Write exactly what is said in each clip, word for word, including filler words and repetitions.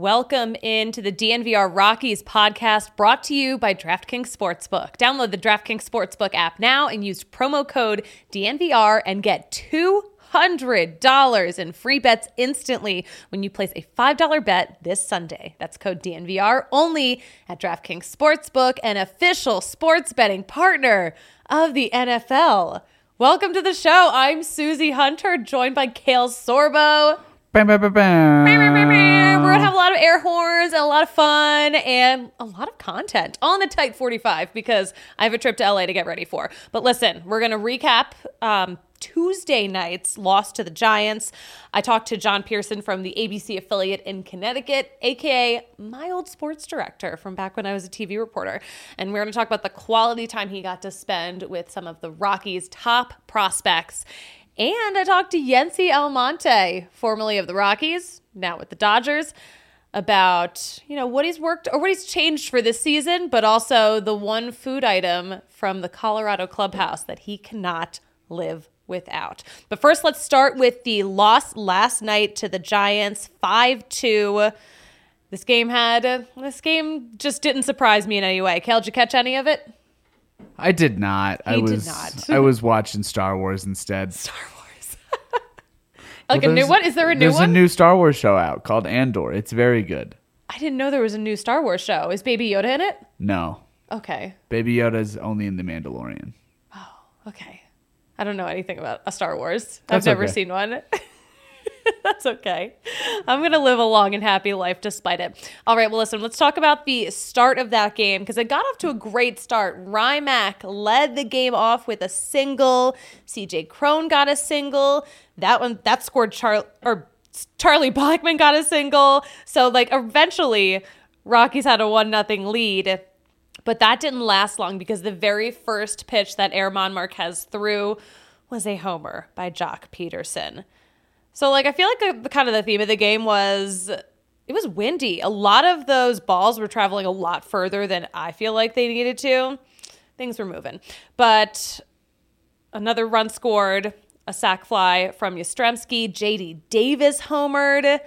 Welcome into the D N V R Rockies podcast brought to you by DraftKings Sportsbook. Download the DraftKings Sportsbook app now and use promo code D N V R and get two hundred dollars in free bets instantly when you place a five dollar bet this Sunday. That's code D N V R only at DraftKings Sportsbook, an official sports betting partner of the N F L. Welcome to the show. I'm Susie Hunter, joined by Kale Sorbo. Bam, bam, bam, bam. We're going to have a lot of air horns and a lot of fun and a lot of content on the tight forty-five because I have a trip to L A to get ready for. But listen, we're going to recap um, Tuesday night's loss to the Giants. I talked to John Pearson from the A B C affiliate in Connecticut, a k a my old sports director from back when I was a T V reporter. And we're going to talk about the quality time he got to spend with some of the Rockies' top prospects. And I talked to Yency Almonte, formerly of the Rockies, now with the Dodgers, about, you know, what he's worked or what he's changed for this season, but also the one food item from the Colorado clubhouse that he cannot live without. But first, let's start with the loss last night to the Giants, five two. This game had, this game just didn't surprise me in any way. Kale, did you catch any of it? I did not. He I was did not. I was watching Star Wars instead. Star Wars. Like well, a new one? Is there a new there's one? There's a new Star Wars show out called Andor. It's very good. I didn't know there was a new Star Wars show. Is Baby Yoda in it? No. Okay. Baby Yoda's only in The Mandalorian. Oh, okay. I don't know anything about a Star Wars. That's I've never okay. seen one. That's okay. I'm going to live a long and happy life despite it. All right, well, listen, let's talk about the start of that game because it got off to a great start. Rymack led the game off with a single. C J Cron got a single. That one, that scored Char- or Charlie Blackmon got a single. So, like, eventually, Rockies had a one nothing lead. But that didn't last long because the very first pitch that Germán Marquez threw was a homer by Joc Pederson. So, like, I feel like the, the kind of the theme of the game was it was windy. A lot of those balls were traveling a lot further than I feel like they needed to. Things were moving. But another run scored, a sac fly from Yastrzemski. J D Davis homered.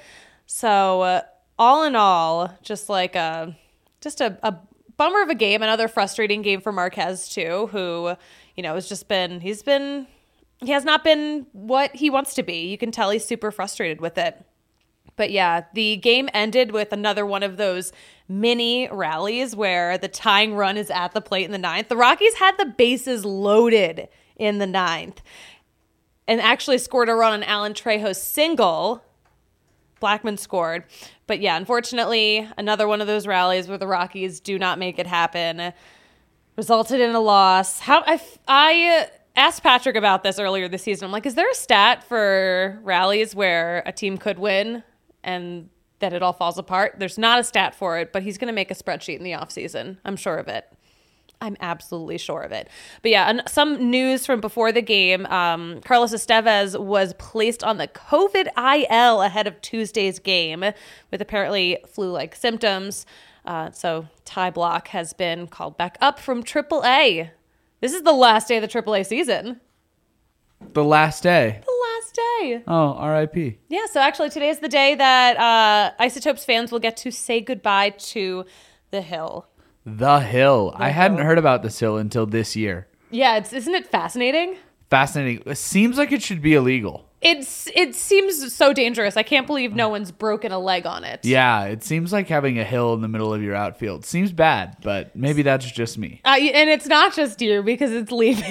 So, uh, all in all, just like a, just a, a bummer of a game. Another frustrating game for Marquez, too, who, you know, has just been, he's been... He has not been what he wants to be. You can tell he's super frustrated with it. But yeah, the game ended with another one of those mini rallies where the tying run is at the plate in the ninth. The Rockies had the bases loaded in the ninth and actually scored a run on Alan Trejo's single. Blackmon scored. But yeah, unfortunately, another one of those rallies where the Rockies do not make it happen resulted in a loss. How I... I asked Patrick about this earlier this season. I'm like, is there a stat for rallies where a team could win and that it all falls apart? There's not a stat for it, but he's going to make a spreadsheet in the offseason. I'm sure of it. I'm absolutely sure of it. But yeah, and some news from before the game. Um, Carlos Estevez was placed on the COVID I L ahead of Tuesday's game with apparently flu-like symptoms. Uh, so Ty Blach has been called back up from triple A. This is the last day of the triple A season. The last day? The last day. Oh, R I P. Yeah, so actually today is the day that uh, Isotopes fans will get to say goodbye to the Hill. The Hill. The I Hill. hadn't heard about this hill until this year. Yeah, it's, isn't it fascinating? Fascinating. It seems like it should be illegal. It's It seems so dangerous. I can't believe no one's broken a leg on it. Yeah, it seems like having a hill in the middle of your outfield. Seems bad, but maybe that's just me. Uh, and it's not just you because it's leaving.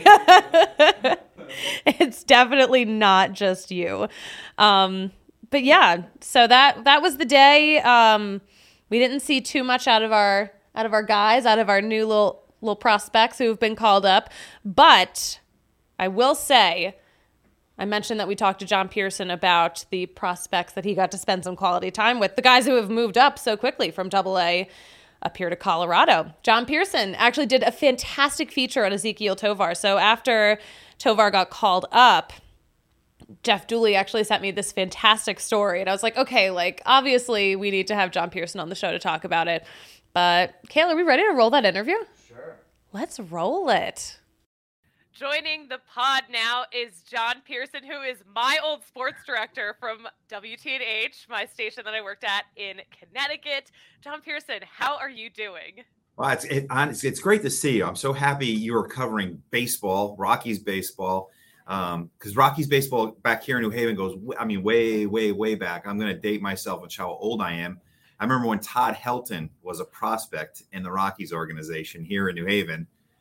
It's definitely not just you. Um, but yeah, so that that was the day. Um, we didn't see too much out of our out of our guys, out of our new little little prospects who have been called up. But I will say, I mentioned that we talked to John Pearson about the prospects that he got to spend some quality time with, the guys who have moved up so quickly from double A up here to Colorado. John Pearson actually did a fantastic feature on Ezequiel Tovar. So after Tovar got called up, Jeff Dooley actually sent me this fantastic story. And I was like, okay, like, obviously we need to have John Pearson on the show to talk about it. But, Kayla, are we ready to roll that interview? Sure. Let's roll it. Joining the pod now is John Pearson, who is my old sports director from W T N H, my station that I worked at in Connecticut. John Pearson, how are you doing? Well, it's it, it's it's great to see you. I'm so happy you are covering baseball, Rockies baseball, because um, Rockies baseball back here in New Haven goes, I mean, way, way, way back. I'm going to date myself and how old I am. I remember when Todd Helton was a prospect in the Rockies organization here in New Haven.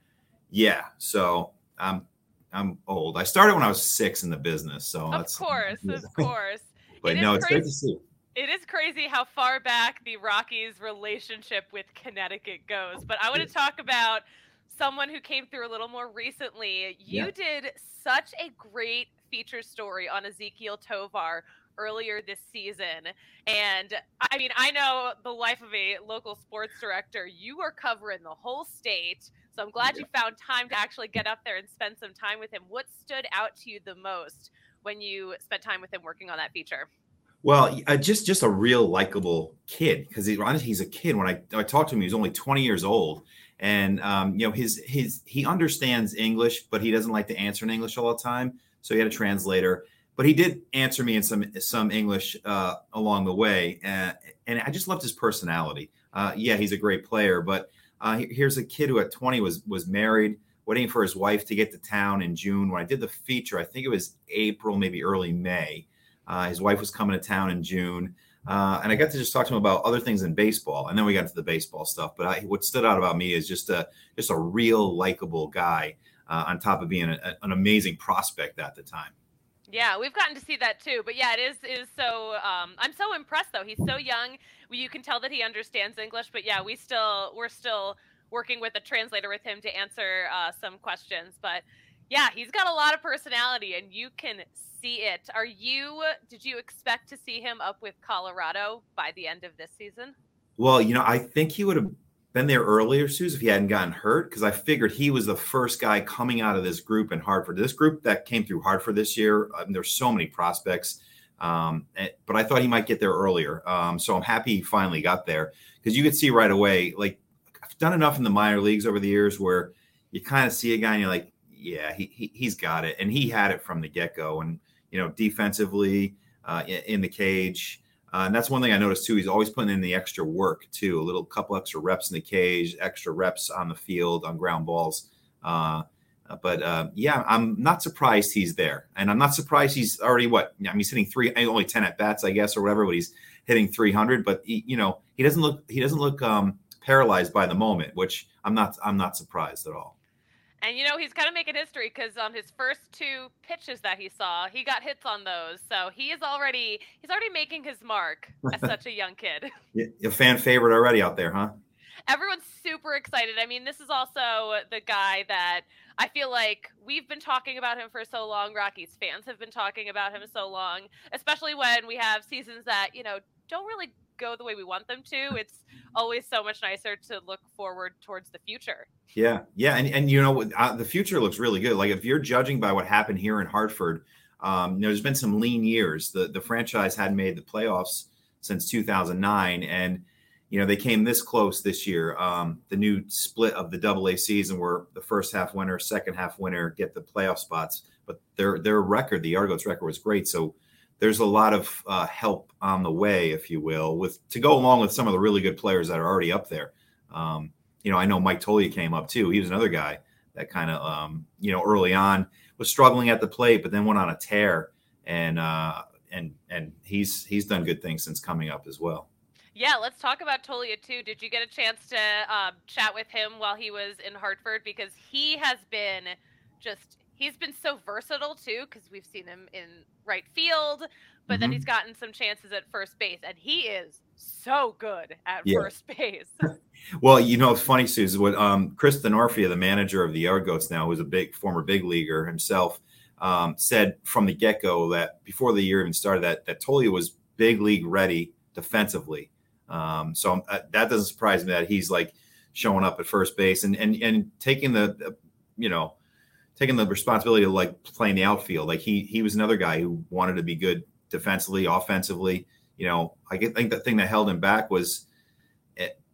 Yeah, so I'm I'm old. I started when I was six in the business, so of that's course, of course. But it no, is it's crazy. great to see. It is crazy how far back the Rockies' relationship with Connecticut goes. But I want to talk about someone who came through a little more recently. You Yeah. did such a great feature story on Ezequiel Tovar earlier this season. And I mean, I know the life of a local sports director, you are covering the whole state. So I'm glad Yeah. you found time to actually get up there and spend some time with him. What stood out to you the most when you spent time with him working on that feature? Well, uh, just just a real likable kid, because he, honestly, he's a kid. When I, I talked to him, he was only twenty years old, and um, you know his his he understands English, but he doesn't like to answer in English all the time. So he had a translator, but he did answer me in some some English uh, along the way, uh, and I just loved his personality. Uh, yeah, he's a great player, but uh, here's a kid who at twenty was was married, waiting for his wife to get to town in June. When I did the feature, I think it was April, maybe early May. Uh, his wife was coming to town in June, uh, and I got to just talk to him about other things in baseball, and then we got to the baseball stuff. But I, what stood out about me is just a just a real likable guy, uh, on top of being a, an amazing prospect at the time. Yeah, we've gotten to see that too. But yeah, it is it is so. Um, I'm so impressed though. He's so young. You can tell that he understands English. But yeah, we still we're still working with a translator with him to answer uh, some questions. But yeah, he's got a lot of personality, and you can see it. Are you? Did you expect to see him up with Colorado by the end of this season? Well, you know, I think he would have been there earlier, Suze, if he hadn't gotten hurt, because I figured he was the first guy coming out of this group in Hartford. This group that came through Hartford this year, um, there's so many prospects, um, but I thought he might get there earlier. Um, so I'm happy he finally got there, because you could see right away, like I've done enough in the minor leagues over the years where you kind of see a guy and you're like, yeah, he, he he's got it, and he had it from the get-go. And you know, defensively, uh, in, in the cage, uh, and that's one thing I noticed too. He's always putting in the extra work too, a little couple extra reps in the cage, extra reps on the field on ground balls. Uh, but uh, yeah, I'm not surprised he's there, and I'm not surprised he's already what I mean. He's hitting three, only ten at bats, I guess, or whatever. But he's hitting three hundred. But he, you know, he doesn't look he doesn't look um, paralyzed by the moment, which I'm not I'm not surprised at all. And, you know, he's kind of making history because on his first two pitches that he saw, he got hits on those. So he is already he's already making his mark as such a young kid. A fan favorite already out there, huh? Everyone's super excited. I mean, this is also the guy that I feel like we've been talking about him for so long. Rockies fans have been talking about him so long, especially when we have seasons that, you know, don't really go the way we want them to. It's always so much nicer to look forward towards the future. Yeah, yeah, and and you know uh, the future looks really good. Like if you're judging by what happened here in Hartford, um, you know, there's been some lean years. The the franchise hadn't made the playoffs since two thousand nine, and you know they came this close this year. Um, the new split of the Double A season, where the first half winner, second half winner get the playoff spots, but their their record, the Argos record, was great. So there's a lot of uh, help on the way, if you will, with to go along with some of the really good players that are already up there. Um, you know, I know Mike Toglia came up too. He was another guy that kind of, um, you know, early on was struggling at the plate, but then went on a tear, and uh, and and he's he's done good things since coming up as well. Yeah, let's talk about Toglia too. Did you get a chance to um, chat with him while he was in Hartford? Because he has been just. He's been so versatile, too, because we've seen him in right field, but mm-hmm. then he's gotten some chances at first base, and he is so good at yeah. first base. Well, you know, it's funny, Susan, what um, Chris Denorfia, the manager of the Argos now, who's a big former big leaguer himself, um, said from the get-go that before the year even started that, that Toglia was big league ready defensively. Um, so uh, that doesn't surprise me that he's like showing up at first base and, and, and taking the, the, you know, taking the responsibility of like playing the outfield. Like he he was another guy who wanted to be good defensively, offensively. You know, I think the thing that held him back was it,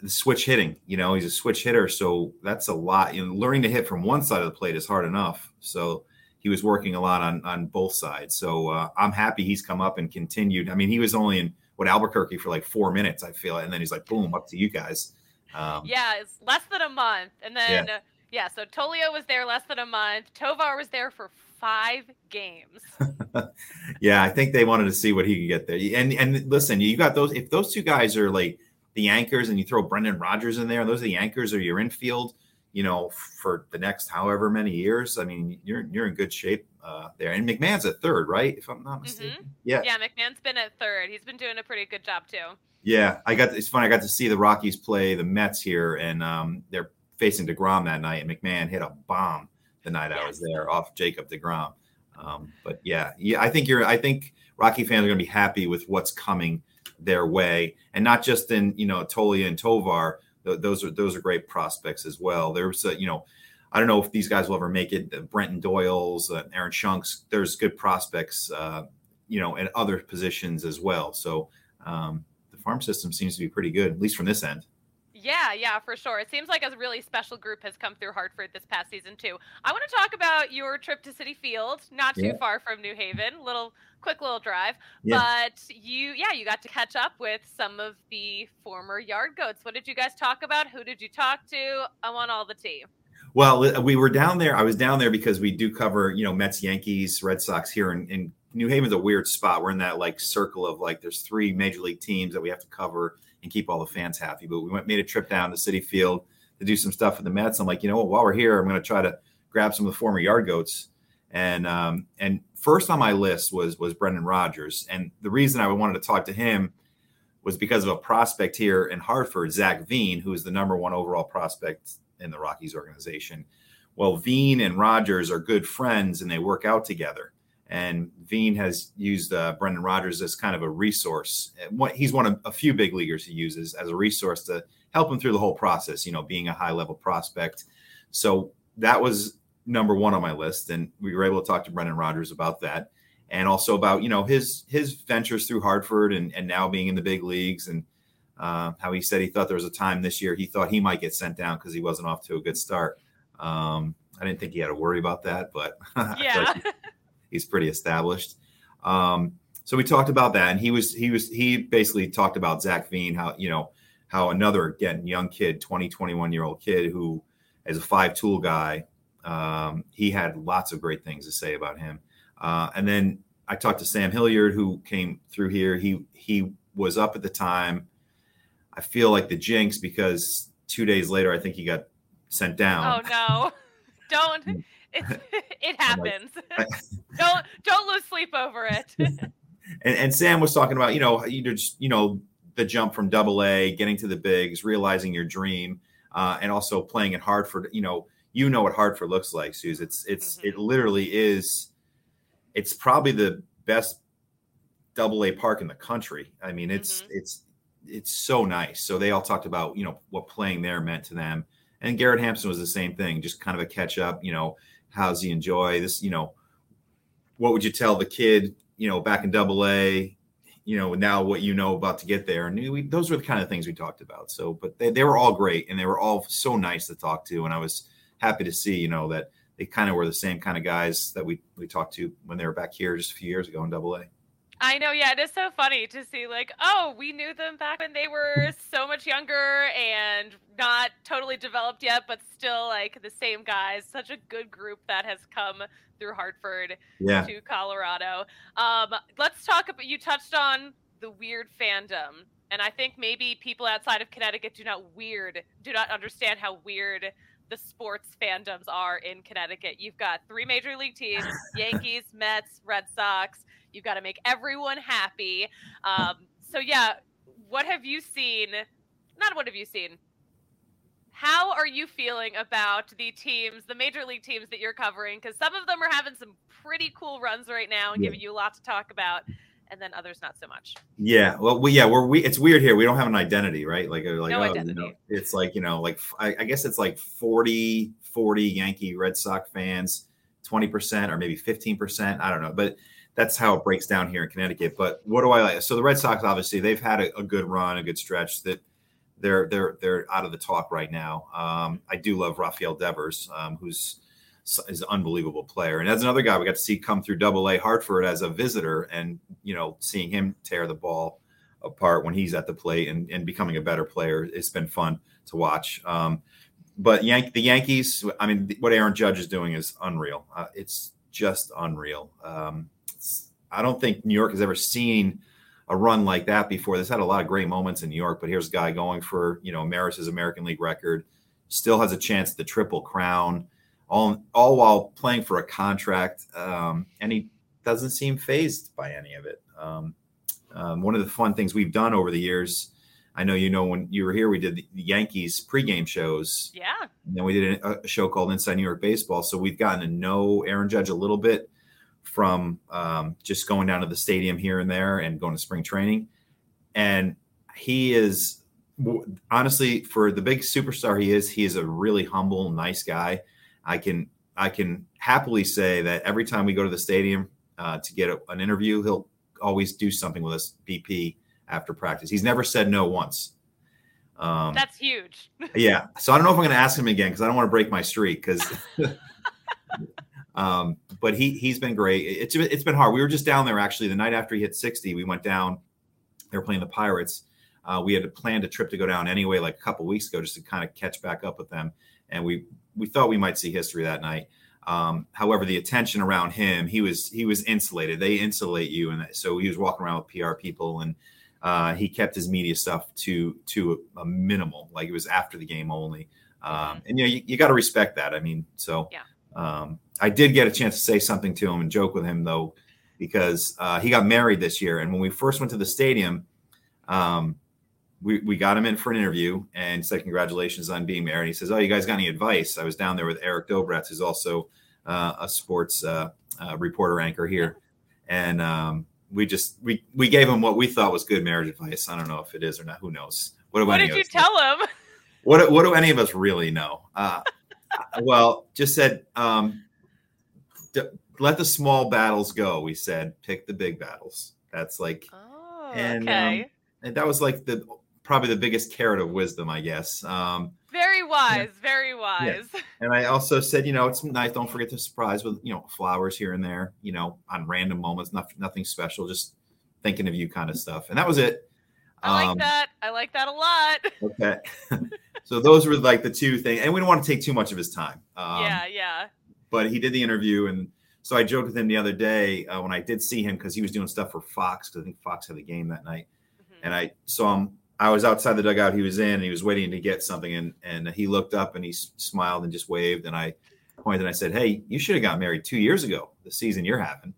switch hitting. You know, he's a switch hitter, so that's a lot. You know, learning to hit from one side of the plate is hard enough. So he was working a lot on on both sides. So uh, I'm happy he's come up and continued. I mean, he was only in what Albuquerque for like four minutes, I feel, and then he's like, boom, up to you guys. Um, yeah, it's less than a month, and then Yeah. uh, yeah. So Tolio was there less than a month. Tovar was there for five games. yeah, I think they wanted to see what he could get there. And and listen, you got those. If those two guys are like the anchors, and you throw Brendan Rodgers in there, those are the anchors or your infield, you know, for the next however many years. I mean, you're you're in good shape uh, there. And McMahon's at third, right? If I'm not mistaken. Mm-hmm. Yeah. Yeah, McMahon's been at third. He's been doing a pretty good job too. Yeah, I got. It's funny. I got to see the Rockies play the Mets here, and um, they're facing DeGrom that night. And McMahon hit a bomb the night I was there off Jacob DeGrom. Um, but yeah, yeah, I think you're. I think Rocky fans are going to be happy with what's coming their way, and not just in you know Tolia and Tovar. Th- those are those are great prospects as well. There's a, you know, I don't know if these guys will ever make it. Uh, Brenton Doyle's, uh, Aaron Shunks. There's good prospects, uh, you know, in other positions as well. So. Um, farm system seems to be pretty good, at least from this end. Yeah, yeah, for sure. It seems like a really special group has come through Hartford this past season too. I want to talk about your trip to Citi Field, not too Yeah. far from New Haven, little quick little drive. Yeah. But you, yeah, you got to catch up with some of the former Yard Goats. What did you guys talk about? Who did you talk to? I want all the tea. Well, we were down there. I was down there because we do cover, you know, Mets, Yankees, Red Sox here in, in New Haven's a weird spot. We're in that like circle of like there's three major league teams that we have to cover and keep all the fans happy. But we went made a trip down to Citi Field to do some stuff with the Mets. I'm like, you know what? While we're here, I'm going to try to grab some of the former Yard Goats. And um, and first on my list was was Brendan Rodgers. And the reason I wanted to talk to him was because of a prospect here in Hartford, Zach Veen, who is the number one overall prospect in the Rockies organization. Well, Veen and Rodgers are good friends and they work out together. And Veen has used uh, Brendan Rodgers as kind of a resource. He's one of a few big leaguers he uses as a resource to help him through the whole process, you know, being a high level prospect. So that was number one on my list. And we were able to talk to Brendan Rodgers about that. And also about, you know, his his ventures through Hartford and, and now being in the big leagues and uh, how he said he thought there was a time this year he thought he might get sent down because he wasn't off to a good start. Um, I didn't think he had to worry about that, but Yeah. he's pretty established. Um, so we talked about that, and he was he was he basically talked about Zach Veen, how you know how another again young kid, twenty, twenty-one year old kid who is a five tool guy. Um, he had lots of great things to say about him. Uh, and then I talked to Sam Hilliard, who came through here. He he was up at the time. I feel like the jinx because two days later, I think he got sent down. Oh no! Don't. It, it happens. Like, don't don't lose sleep over it. and, and Sam was talking about, you know, you just, you know, the jump from double A, getting to the bigs, realizing your dream, uh, and also playing at Hartford. You know, you know what Hartford looks like, Suze. It's it's Mm-hmm. it literally is. It's probably the best double A park in the country. I mean, it's Mm-hmm. it's it's so nice. So they all talked about, you know, what playing there meant to them. And Garrett Hampson was the same thing, just kind of a catch up, you know, how's he enjoy this, you know, what would you tell the kid, you know, back in double A, you know, now what you know about to get there. And we, those were the kind of things we talked about. So, but they, they were all great and they were all so nice to talk to. And I was happy to see, you know, that they kind of were the same kind of guys that we, we talked to when they were back here just a few years ago in double A. I know, yeah, it is so funny to see like, oh, we knew them back when they were so much younger and not totally developed yet, but still like the same guys. Such a good group that has come through Hartford Yeah. to Colorado. Um, let's talk about, you touched on the weird fandom. And I think maybe people outside of Connecticut do not weird, do not understand how weird the sports fandoms are in Connecticut. You've got three major league teams, Yankees, Mets, Red Sox. You've got to make everyone happy. Um, so yeah, what have you seen? Not what have you seen? How are you feeling about the teams, the major league teams that you're covering? Because some of them are having some pretty cool runs right now and Yeah. giving you a lot to talk about, and then others not so much. Yeah. Well, we, yeah, we're, we, it's weird here. We don't have an identity, right? Like, like No oh, identity. You know, it's like, you know, like, I, I guess it's like forty, forty Yankee Red Sox fans, twenty percent or maybe fifteen percent. I don't know. But that's how it breaks down here in Connecticut. But what do I like? So the Red Sox, obviously, they've had a, a good run, a good stretch. That they're they're they're out of the talk right now. Um, I do love Rafael Devers, um, who's is an unbelievable player, and as another guy we got to see come through Double A Hartford as a visitor, and you know, seeing him tear the ball apart when he's at the plate and, and becoming a better player, it's been fun to watch. Um, but Yank the Yankees, I mean, what Aaron Judge is doing is unreal. Uh, it's just unreal. Um, it's, I don't think New York has ever seen a run like that before. This had a lot of great moments in New York, but here's a guy going for, you know, Maris's American League record, still has a chance at the Triple Crown, all, all while playing for a contract. Um, and he doesn't seem fazed by any of it. Um, um, one of the fun things we've done over the years, I know, you know, when you were here, we did the Yankees pregame shows. Yeah. And then we did a, a show called Inside New York Baseball. So we've gotten to know Aaron Judge a little bit from um, just going down to the stadium here and there and going to spring training. And he is, honestly, for the big superstar he is, he is a really humble, nice guy. I can I can happily say that every time we go to the stadium uh, to get a, an interview, he'll always do something with us, B P, after practice. He's never said no once. Um, That's huge. Yeah. So I don't know if I'm going to ask him again because I don't want to break my streak. Because, um, but he he's been great. It's it's been hard. We were just down there actually the night after he hit sixty. We went down. They were playing the Pirates. Uh, we had planned a trip to go down anyway, like a couple of weeks ago, just to kind of catch back up with them. And we we thought we might see history that night. Um, however, the attention around him, he was he was insulated. They insulate you, and so he was walking around with P R people, and uh, he kept his media stuff to to a, a minimal, like it was after the game only. Um, and you know, you, you got to respect that. I mean, so yeah. um, I did get a chance to say something to him and joke with him though, because uh, he got married this year, and when we first went to the stadium, um, we we got him in for an interview and said congratulations on being married. He says, "Oh, you guys got any advice?" I was down there with Eric Dobratz, who's also uh, a sports uh, uh, reporter anchor here, and um, we just we we gave him what we thought was good marriage advice. I don't know if it is or not. Who knows? What, what did you tell know? him? What what do any of us really know? Uh, well, just said um, d- let the small battles go. We said pick the big battles. That's like, oh, and okay. um, and that was like the probably the biggest carrot of wisdom, I guess. Um, very wise, yeah. very wise. Yeah. And I also said, you know, it's nice. Don't forget to surprise with, you know, flowers here and there, you know, on random moments, nothing, nothing special, just thinking of you kind of stuff. And that was it. I like um, that. I like that a lot. Okay. So those were like the two things. And we don't want to take too much of his time. Um, yeah, yeah. But he did the interview. And so I joked with him the other day uh, when I did see him, because he was doing stuff for Fox, because I think Fox had the game that night. And I saw him, I was outside the dugout he was in, and he was waiting to get something. And, and he looked up and he smiled and just waved. And I pointed and I said, "Hey, you should have got married two years ago, the season you're having."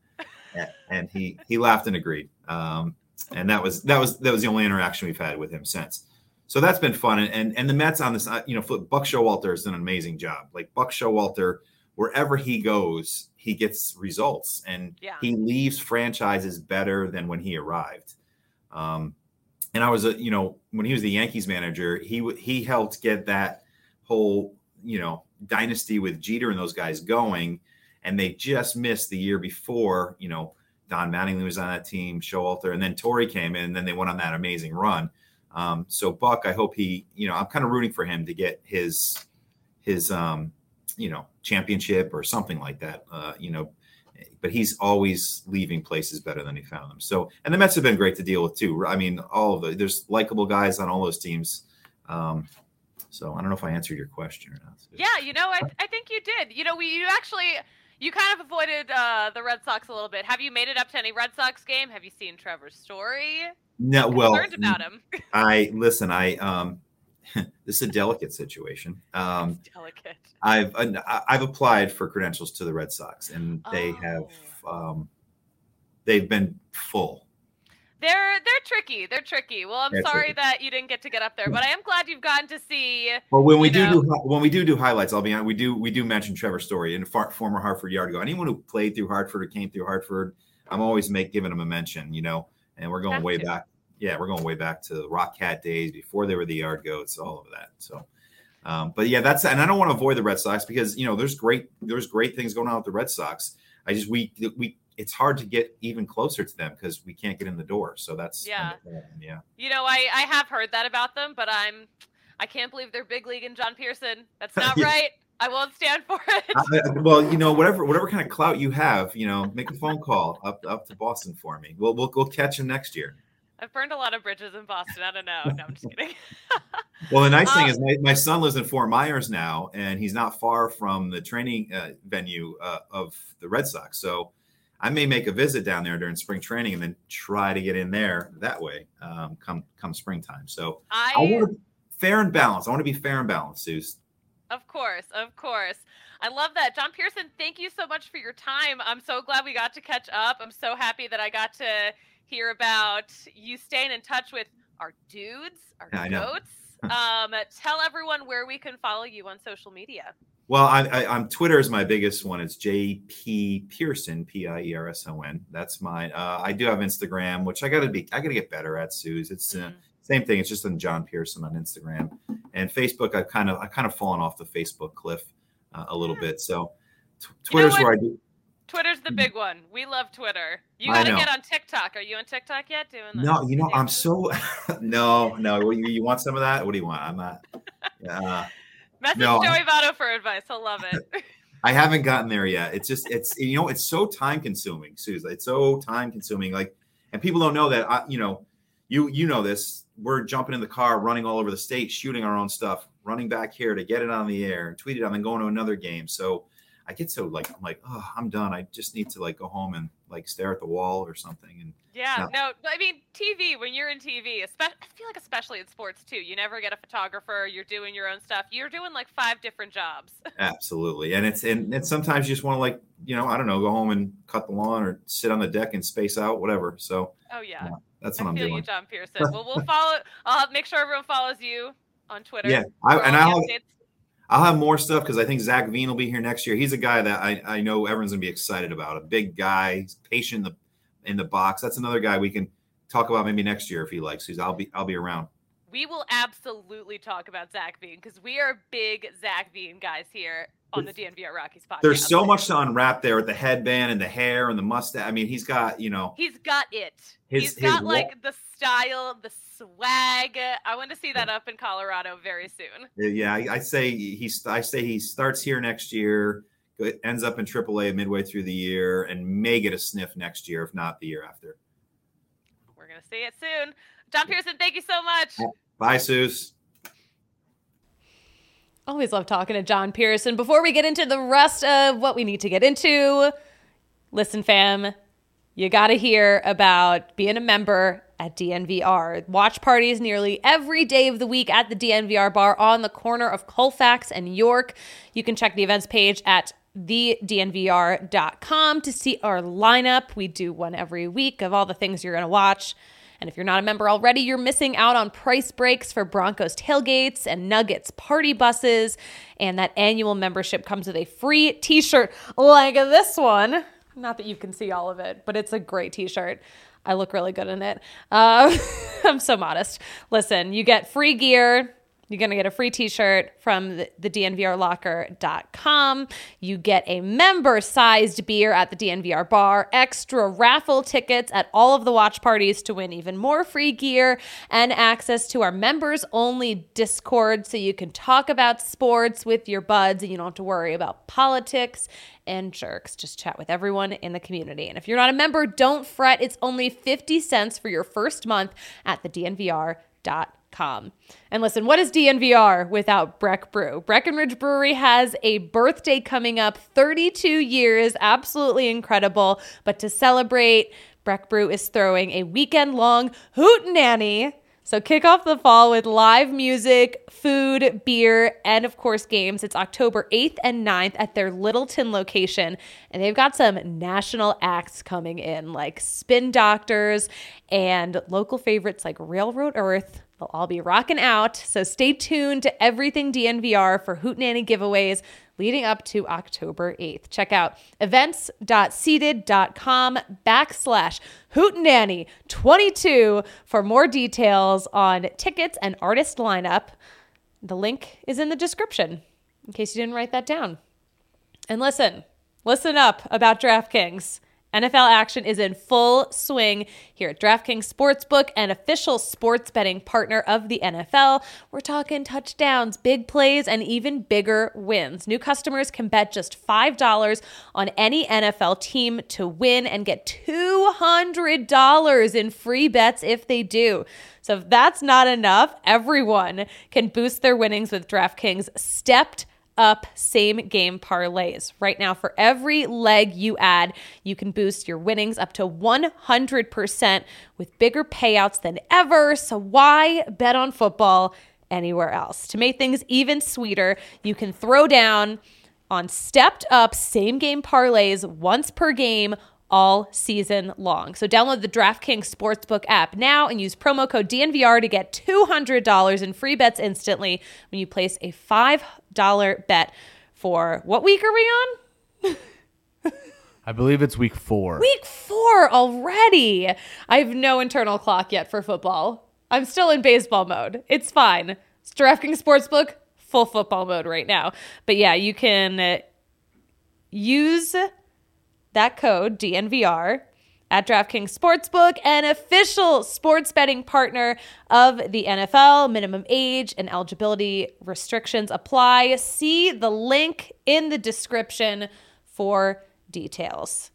And he, he laughed and agreed. Um, and that was, that was, that was the only interaction we've had with him since. So that's been fun. And, and, and the Mets on this, you know, Buck Showalter has done an amazing job. Like Buck Showalter, wherever he goes, he gets results, and yeah. he leaves franchises better than when he arrived. Um, And I was, a, you know, when he was the Yankees manager, he he helped get that whole, you know, dynasty with Jeter and those guys going. And they just missed the year before, you know, Don Mattingly was on that team, Showalter, and then Torrey came in, and then they went on that amazing run. Um, so Buck, I hope he, you know, I'm kind of rooting for him to get his, his, um, you know, championship or something like that, uh, you know. But he's always leaving places better than he found them. So, and the Mets have been great to deal with too. I mean, all of the, there's likable guys on all those teams. Um, so I don't know if I answered your question or not. Yeah, you know, I, I think you did. You know, we you actually, you kind of avoided uh, the Red Sox a little bit. Have you made it up to any Red Sox game? Have you seen Trevor's story? No, well, learned about him. I listen. I um, this is a delicate situation. Um, it's delicate. I've I've applied for credentials to the Red Sox, and they oh. have um, they've been full. They're they're tricky. They're tricky. Well, I'm They're sorry tricky. that you didn't get to get up there, but I am glad you've gotten to see. Well, when we do, know, do when we do do highlights, I'll be on. We do we do mention Trevor's story and far, former Hartford Yard go. Anyone who played through Hartford or came through Hartford, I'm always make giving them a mention. You know, and we're going Have way to. back. Yeah, we're going way back to the Rock Cat days before they were the Yard Goats, all of that. So, um, but yeah, that's and I don't want to avoid the Red Sox because you know there's great there's great things going on with the Red Sox. I just we we it's hard to get even closer to them because we can't get in the door. So that's yeah, yeah. You know, I I have heard that about them, but I'm I can't believe they're big league and John Pearson. That's not yeah. right. I won't stand for it. I, well, you know, whatever whatever kind of clout you have, you know, make a phone call up up to Boston for me. We'll we'll we'll catch him next year. I've burned a lot of bridges in Boston. I don't know. No, I'm just kidding. Well, the nice um, thing is my, my son lives in Fort Myers now, and he's not far from the training uh, venue uh, of the Red Sox. So I may make a visit down there during spring training and then try to get in there that way um, come come springtime. So I, I want to fair and balanced. I want to be fair and balanced, Suze. Of course, of course. I love that. John Pearson, thank you so much for your time. I'm so glad we got to catch up. I'm so happy that I got to hear about you staying in touch with our dudes, our I know. goats. um, tell everyone where we can follow you on social media. Well, I, I, I'm Twitter is my biggest one. It's J P Pearson, P I E R S O N. That's mine. Uh, I do have Instagram, which I got to be, I got to get better at, Suze. It's uh, mm. same thing. It's just on John Pearson on Instagram and Facebook. I've kind of, I kind of fallen off the Facebook cliff uh, a little bit. So t- Twitter's you know where I do. Twitter's the big one. We love Twitter. You I got to know. get on TikTok. Are you on TikTok yet? Doing the No, you know, I'm dances? so no, no. What, you, you want some of that? What do you want? I'm not. Uh, Message no, Joey I- Votto for advice. He'll love it. I haven't gotten there yet. It's just, it's, you know, it's so time consuming, Susan. It's so time consuming. Like, and people don't know that, I, you know, you, you know this, we're jumping in the car, running all over the state, shooting our own stuff, running back here to get it on the air, tweet it out, and then going to another game. So I get so like, I'm like, oh, I'm done. I just need to like go home and like stare at the wall or something. And Yeah, no. no, I mean, T V, when you're in T V, espe- I feel like especially in sports too, you never get a photographer, you're doing your own stuff. You're doing like five different jobs. Absolutely. And it's, and, and sometimes you just want to like, you know, I don't know, go home and cut the lawn or sit on the deck and space out, whatever. So Oh, yeah. yeah, that's I what I'm feel doing. you, John Pearson. Well, we'll follow, I'll make sure everyone follows you on Twitter. Yeah. I, for and all the I'll, updates. I'll have more stuff because I think Zach Veen will be here next year. He's a guy that I, I know everyone's gonna be excited about. A big guy, he's patient in the in the box. That's another guy we can talk about maybe next year if he likes. He's I'll be I'll be around. We will absolutely talk about Zach Veen because we are big Zach Veen guys here on the D N V R Rockies podcast. There's so much to unwrap there with the headband and the hair and the mustache. I mean, he's got, you know, He's got it. His- He's his got wa- like the style, the swag. I want to see that up in Colorado very soon. yeah, I, I say he's I say he starts here next year, ends up in triple A midway through the year, and may get a sniff next year, if not the year after. We're going to see it soon. John Pearson, thank you so much. Bye, Suze. Always love talking to John Pearson. Before we get into the rest of what we need to get into, listen, fam, you got to hear about being a member at D N V R. Watch parties nearly every day of the week at the D N V R bar on the corner of Colfax and York. You can check the events page at the D N V R dot com to see our lineup. We do one every week of all the things you're going to watch. And if you're not a member already, you're missing out on price breaks for Broncos tailgates and Nuggets party buses. And that annual membership comes with a free t-shirt like this one. Not that you can see all of it, but it's a great t-shirt. I look really good in it. Uh, I'm so modest. Listen, you get free gear. You're going to get a free t-shirt from the, the D N V R locker dot com. You get a member-sized beer at the D N V R bar, extra raffle tickets at all of the watch parties to win even more free gear, and access to our members-only Discord so you can talk about sports with your buds and you don't have to worry about politics and jerks. Just chat with everyone in the community. And if you're not a member, don't fret. It's only fifty cents for your first month at the D N V R dot com. And listen, what is D N V R without Breck Brew? Breckenridge Brewery has a birthday coming up, thirty-two years, absolutely incredible. But to celebrate, Breck Brew is throwing a weekend-long hootenanny. So kick off the fall with live music, food, beer, and of course games. It's October eighth and ninth at their Littleton location. And they've got some national acts coming in like Spin Doctors and local favorites like Railroad Earth. They'll all be rocking out. So stay tuned to everything D N V R for hootenanny giveaways leading up to October eighth. Check out events.seated.com backslash hootenanny 22 for more details on tickets and artist lineup. The link is in the description in case you didn't write that down. And listen, listen up about DraftKings. N F L action is in full swing here at DraftKings Sportsbook, an official sports betting partner of the N F L. We're talking touchdowns, big plays, and even bigger wins. New customers can bet just five dollars on any N F L team to win and get two hundred dollars in free bets if they do. So if that's not enough, everyone can boost their winnings with DraftKings stepped up same game parlays. Right now, for every leg you add, you can boost your winnings up to one hundred percent with bigger payouts than ever. So why bet on football anywhere else? To make things even sweeter, you can throw down on stepped up same game parlays once per game all season long. So download the DraftKings Sportsbook app now and use promo code D N V R to get two hundred dollars in free bets instantly when you place a five dollars bet for, what week are we on? I believe it's week four. Week four already. I have no internal clock yet for football. I'm still in baseball mode. It's fine. It's DraftKings Sportsbook, full football mode right now. But yeah, you can use that code D N V R at DraftKings Sportsbook, an official sports betting partner of the N F L. Minimum age and eligibility restrictions apply. See the link in the description for details.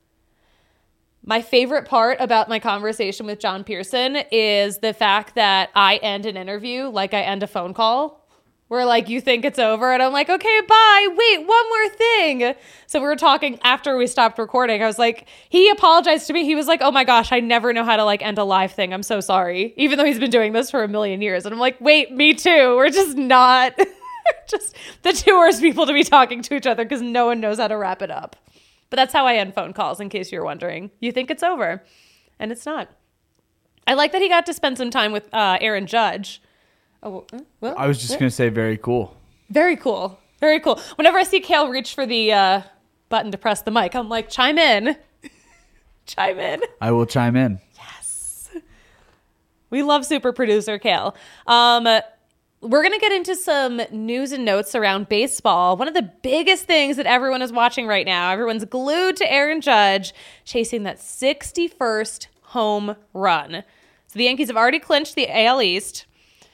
My favorite part about my conversation with John Pearson is the fact that I end an interview like I end a phone call. Where like you think it's over and I'm like, okay, bye. Wait, one more thing. So we were talking after we stopped recording. I was like, he apologized to me. He was like, oh my gosh, I never know how to like end a live thing. I'm so sorry. Even though he's been doing this for a million years. And I'm like, wait, me too. We're just not just the two worst people to be talking to each other because no one knows how to wrap it up. But that's how I end phone calls, in case you're wondering. You think it's over and it's not. I like that he got to spend some time with uh, Aaron Judge. Oh, well, I was just going to say very cool. Very cool. Very cool. Whenever I see Kale reach for the uh, button to press the mic, I'm like, chime in. Chime in. I will chime in. Yes. We love super producer Kale. Um, we're going to get into some news and notes around baseball. One of the biggest things that everyone is watching right now, everyone's glued to Aaron Judge chasing that sixty-first home run. So the Yankees have already clinched the A L East.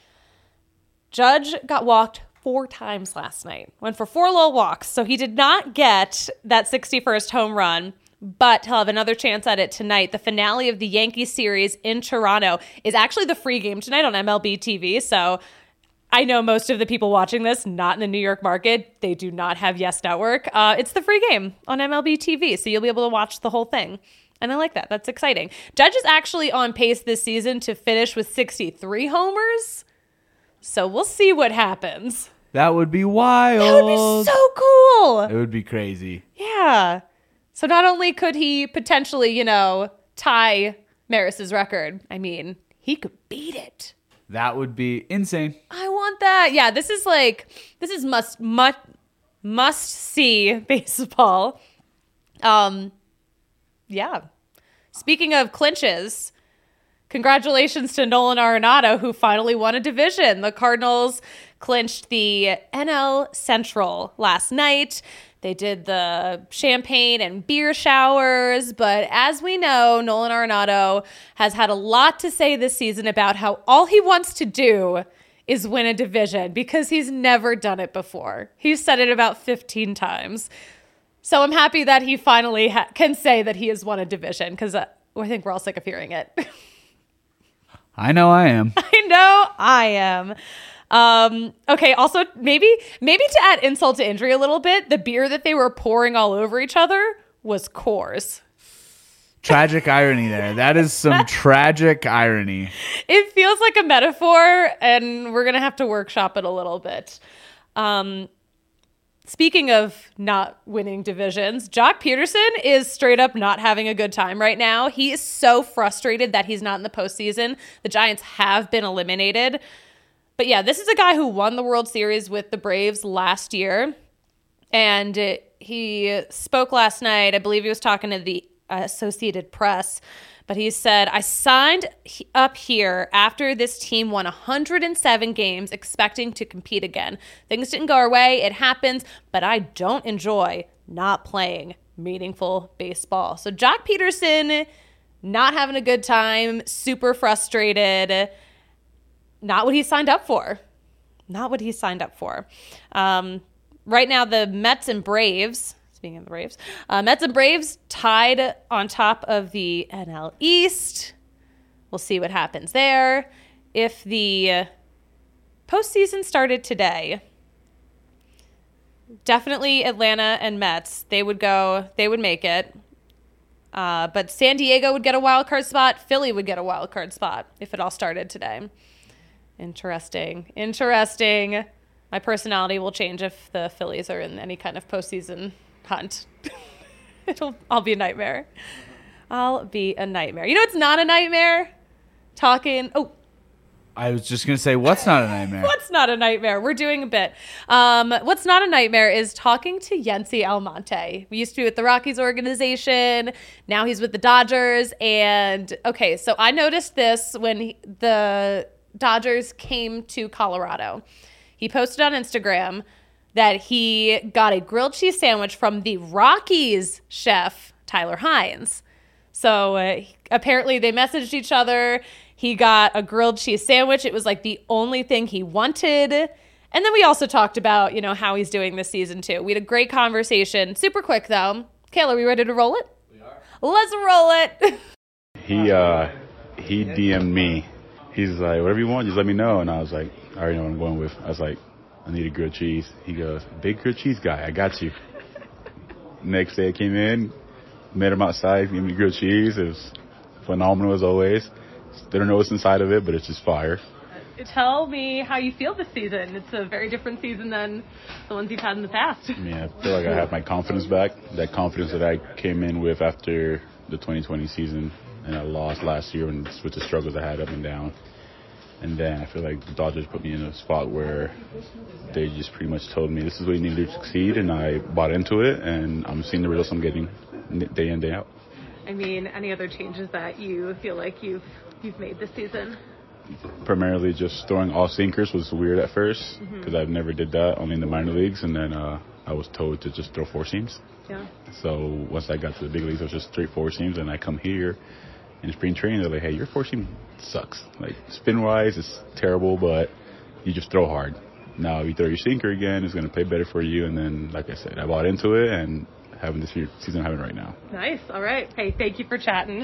Judge got walked four times last night. Went for four little walks. So he did not get that sixty-first home run, but he'll have another chance at it tonight. The finale of the Yankees series in Toronto is actually the free game tonight on M L B T V. So I know most of the people watching this, not in the New York market, they do not have Yes Network. Uh, it's the free game on M L B T V. So you'll be able to watch the whole thing. And I like that. That's exciting. Judge is actually on pace this season to finish with sixty-three homers. So we'll see what happens. That would be wild. That would be so cool. It would be crazy. Yeah. So not only could he potentially, you know, tie Maris's record, I mean, he could beat it. That would be insane. I want that. Yeah, this is like, this is must, must, must see baseball. Um, yeah. Speaking of clinches, congratulations to Nolan Arenado, who finally won a division. The Cardinals clinched the N L Central last night. They did the champagne and beer showers, but as we know, Nolan Arenado has had a lot to say this season about how all he wants to do is win a division because he's never done it before. He's said it about fifteen times. So I'm happy that he finally ha- can say that he has won a division because uh, I think we're all sick of hearing it. I know I am. I know I am. Um, okay, also, maybe maybe to add insult to injury a little bit, the beer that they were pouring all over each other was Coors. Tragic irony there. That is some tragic irony. It feels like a metaphor, and we're going to have to workshop it a little bit. Um, speaking of not winning divisions, Jock Peterson is straight up not having a good time right now. He is so frustrated that he's not in the postseason. The Giants have been eliminated. But yeah, this is a guy who won the World Series with the Braves last year. And it, he spoke last night. I believe he was talking to the Associated Press. But he said, I signed up here after this team won one hundred seven games expecting to compete again. Things didn't go our way. It happens. But I don't enjoy not playing. meaningful baseball. So Jock Peterson, not having a good time, super frustrated. Not what he signed up for. Not what he signed up for. Um, right now, the Mets and Braves, speaking of the Braves, uh, Mets and Braves tied on top of the N L East. We'll see what happens there. If the postseason started today, definitely Atlanta and Mets, they would go, they would make it. Uh, but San Diego would get a wild card spot. Philly would get a wild card spot if it all started today. Interesting. Interesting. My personality will change if the Phillies are in any kind of postseason hunt. It'll, I'll be a nightmare. I'll be a nightmare. You know it's not a nightmare? Talking. Oh, I was just going to say, what's not a nightmare? What's not a nightmare? We're doing a bit. Um, what's not a nightmare is talking to Yency Almonte. We used to be with the Rockies organization. Now he's with the Dodgers. And, okay, so I noticed this when he, the Dodgers came to Colorado. He posted on Instagram that he got a grilled cheese sandwich from the Rockies chef, Tyler Hines. So uh, apparently they messaged each other. He got a grilled cheese sandwich. It was like the only thing he wanted. And then we also talked about, you know, how he's doing this season too. We had a great conversation. Super quick though. Kayla, are we ready to roll it? We are. Let's roll it. he uh, he D M'd me. He's like, whatever you want, just let me know. And I was like, I already know what I'm going with. I was like, I need a grilled cheese. He goes, big grilled cheese guy, I got you. Next day I came in, met him outside, gave me grilled cheese. It was phenomenal as always. They don't know what's inside of it, but it's just fire. Tell me how you feel this season. It's a very different season than the ones you've had in the past. I mean, I feel like I have my confidence back. That confidence that I came in with after the twenty twenty season, and I lost last year and with the struggles I had up and down. And then I feel like the Dodgers put me in a spot where they just pretty much told me this is what you need to succeed, and I bought into it, and I'm seeing the results I'm getting day in, day out. I mean, any other changes that you feel like you've you've made this season? Primarily just throwing all sinkers was weird at first because mm-hmm. I've never did that, only in the minor leagues, and then uh, I was told to just throw four seams. Yeah. So once I got to the big leagues, it was just straight four seams, and I come here in spring training, they're like, hey, your four seam sucks. Like, spin-wise, it's terrible, but you just throw hard. Now, if you throw your sinker again, it's going to play better for you, and then, like I said, I bought into it, and having this season I'm having right now. Nice. All right. Hey, thank you for chatting.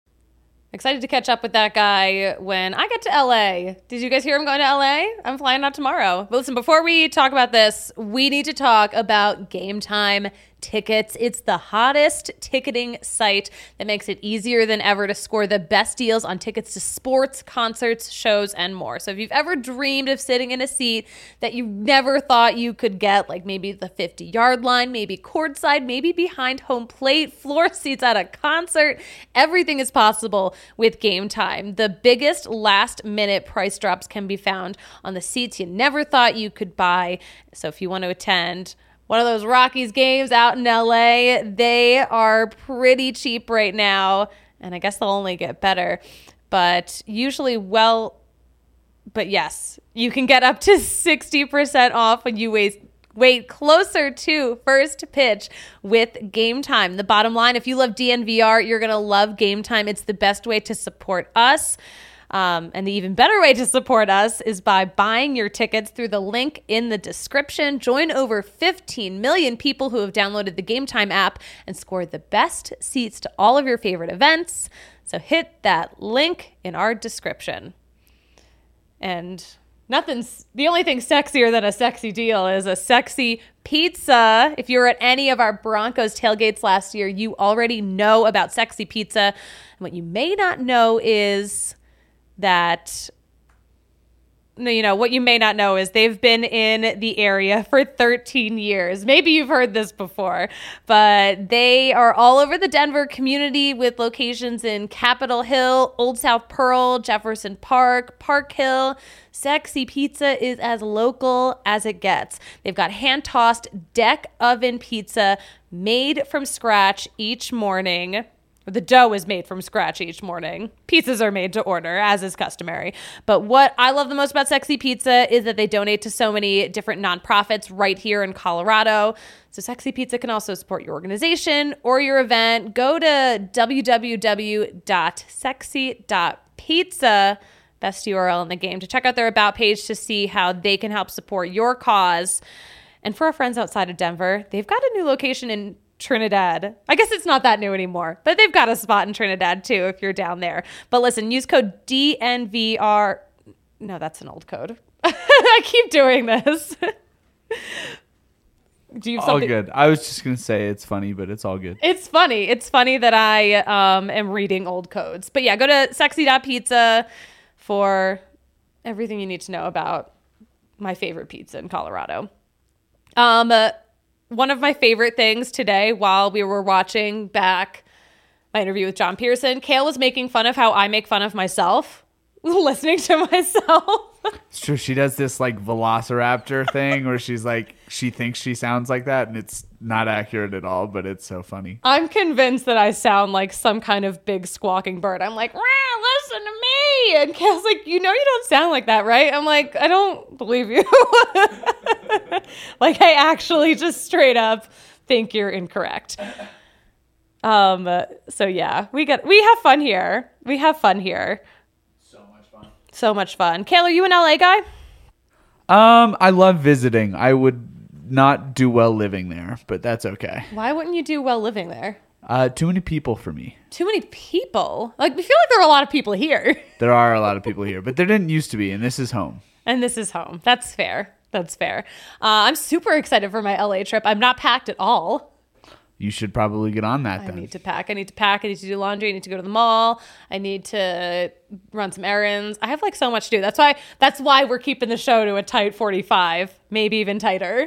Excited to catch up with that guy when I get to L A. Did you guys hear I'm going to L A? I'm flying out tomorrow. But listen, before we talk about this, we need to talk about Game Time tickets. It's the hottest ticketing site that makes it easier than ever to score the best deals on tickets to sports, concerts, shows, and more. So if you've ever dreamed of sitting in a seat that you never thought you could get, like maybe the fifty-yard line, maybe courtside, maybe behind home plate, floor seats at a concert, everything is possible with Game Time. The biggest last-minute price drops can be found on the seats you never thought you could buy. So if you want to attend one of those Rockies games out in L A, they are pretty cheap right now, and I guess they'll only get better. But usually, well, but yes, you can get up to sixty percent off when you wait, wait closer to first pitch with Game Time. The bottom line, if you love D N V R, you're going to love Game Time. It's the best way to support us. Um, and the even better way to support us is by buying your tickets through the link in the description. Join over fifteen million people who have downloaded the Game Time app and scored the best seats to all of your favorite events. So hit that link in our description. And nothing's, the only thing sexier than a sexy deal is a sexy pizza. If you were at any of our Broncos tailgates last year, you already know about Sexy Pizza. And what you may not know is that, no, you know, what you may not know is they've been in the area for thirteen years. Maybe you've heard this before, but they are all over the Denver community with locations in Capitol Hill, Old South Pearl, Jefferson Park, Park Hill. Sexy Pizza is as local as it gets. They've got hand-tossed deck oven pizza made from scratch each morning. The dough is made from scratch each morning. Pizzas are made to order, as is customary. But what I love the most about Sexy Pizza is that they donate to so many different nonprofits right here in Colorado. So Sexy Pizza can also support your organization or your event. Go to w w w dot sexy dot pizza, best U R L in the game, to check out their About page to see how they can help support your cause. And for our friends outside of Denver, they've got a new location in Trinidad. I guess it's not that new anymore, but they've got a spot in Trinidad too if you're down there. But listen, use code D N V R. No, that's an old code. I keep doing this. Do you have all something? good. I was just gonna say it's funny, but it's all good. It's funny. It's funny that I um, am reading old codes. But yeah, go to sexy dot pizza for everything you need to know about my favorite pizza in Colorado. Um. Uh, One of my favorite things today while we were watching back my interview with John Pearson, Kale was making fun of how I make fun of myself, listening to myself. It's true. She does this like velociraptor thing where she's like, she thinks she sounds like that, and it's not accurate at all, but it's so funny. I'm convinced that I sound like some kind of big squawking bird. I'm like, "Rah, listen to me." And Kale's like, you know you don't sound like that, right? I'm like, I don't believe you. Like, I actually just straight up think you're incorrect. Um. So yeah, we got we have fun here. We have fun here. So much fun. So much fun. Kale, are you an L A guy? Um, I love visiting. I would not do well living there, but that's okay. Why wouldn't you do well living there? Uh, too many people for me. Too many people. Like, we feel like there are a lot of people here. There are a lot of people here, but there didn't used to be, and this is home. And this is home. That's fair. That's fair. Uh, I'm super excited for my L A trip. I'm not packed at all. You should probably get on that I then. need to pack. I need to pack. I need to do laundry. I need to go to the mall. I need to run some errands. I have like so much to do. That's why that's why we're keeping the show to a tight forty-five, maybe even tighter.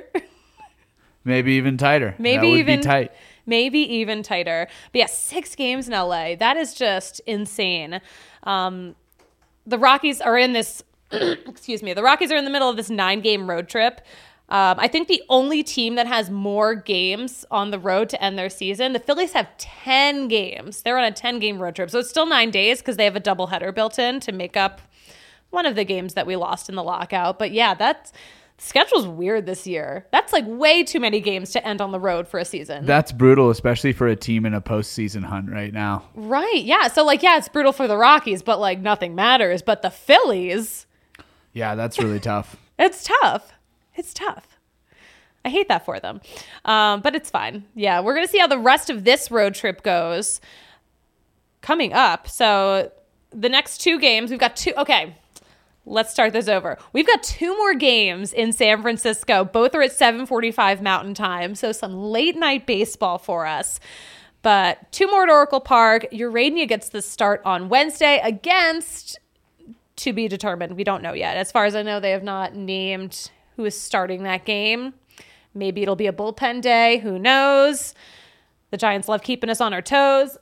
Maybe even tighter. Maybe that would even be tight. Maybe even tighter. But yeah, six games in L A. That is just insane. Um, the Rockies are in this excuse me. The Rockies are in the middle of this nine-game road trip. Um, I think the only team that has more games on the road to end their season, the Phillies have ten games. They're on a ten-game road trip. So it's still nine days because they have a doubleheader built in to make up one of the games that we lost in the lockout. But yeah, that's the schedule's weird this year. That's like way too many games to end on the road for a season. That's brutal, especially for a team in a postseason hunt right now. Right, yeah. So like, yeah, it's brutal for the Rockies, but like nothing matters. But the Phillies... Yeah, that's really tough. It's tough. It's tough. I hate that for them. Um, but it's fine. Yeah, we're going to see how the rest of this road trip goes coming up. So the next two games, we've got two. Okay, let's start this over. We've got two more games in San Francisco. Both are at seven forty-five Mountain Time. So some late night baseball for us. But two more at Oracle Park. Urania gets the start on Wednesday against... to be determined. We don't know yet. As far as I know, they have not named who is starting that game. Maybe it'll be a bullpen day. Who knows? The Giants love keeping us on our toes.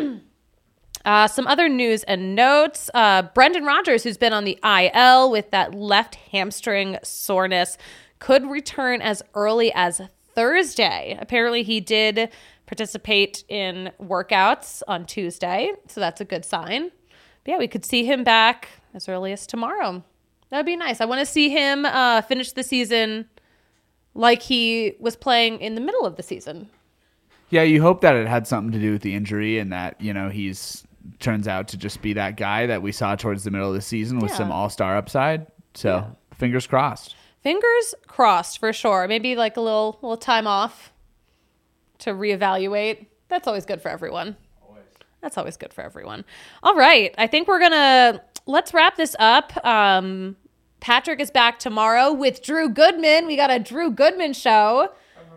uh, some other news and notes. Uh, Brendan Rodgers, who's been on the I L with that left hamstring soreness, could return as early as Thursday. Apparently, he did participate in workouts on Tuesday, so that's a good sign. But yeah, we could see him back as early as tomorrow. That'd be nice. I want to see him uh, finish the season like he was playing in the middle of the season. Yeah, you hope that it had something to do with the injury and that, you know, he's turns out to just be that guy that we saw towards the middle of the season with Yeah. some all-star upside. So Yeah. fingers crossed. Fingers crossed for sure. Maybe like a little little time off to reevaluate. That's always good for everyone. That's always good for everyone. All right. I think we're going to, let's wrap this up. Um, Patrick is back tomorrow with Drew Goodman. We got a Drew Goodman show.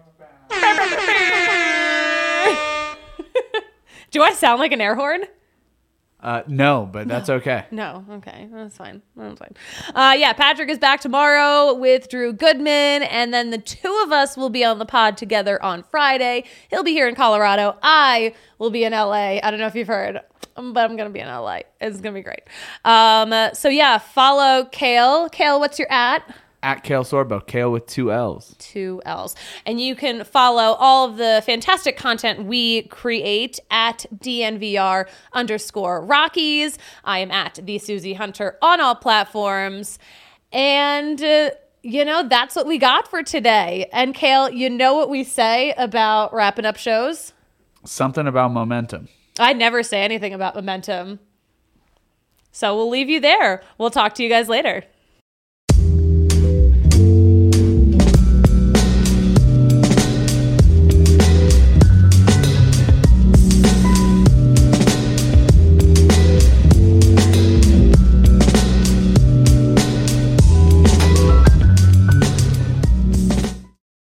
Do I sound like an air horn? Uh, no, but that's okay. No. Okay. That's fine. That's fine. Uh, yeah, Patrick is back tomorrow with Drew Goodman, and then the two of us will be on the pod together on Friday. He'll be here in Colorado. I will be in L A. I don't know if you've heard, but I'm going to be in L A. It's going to be great. Um, so yeah, follow Kale. Kale, what's your at? at Kale Sorbo, Kale with two L's. Two L's. And you can follow all of the fantastic content we create at D N V R underscore Rockies. I am at the Susie Hunter on all platforms. And, uh, you know, that's what we got for today. And Kale, you know what we say about wrapping up shows? Something about momentum. I never say anything about momentum. So we'll leave you there. We'll talk to you guys later.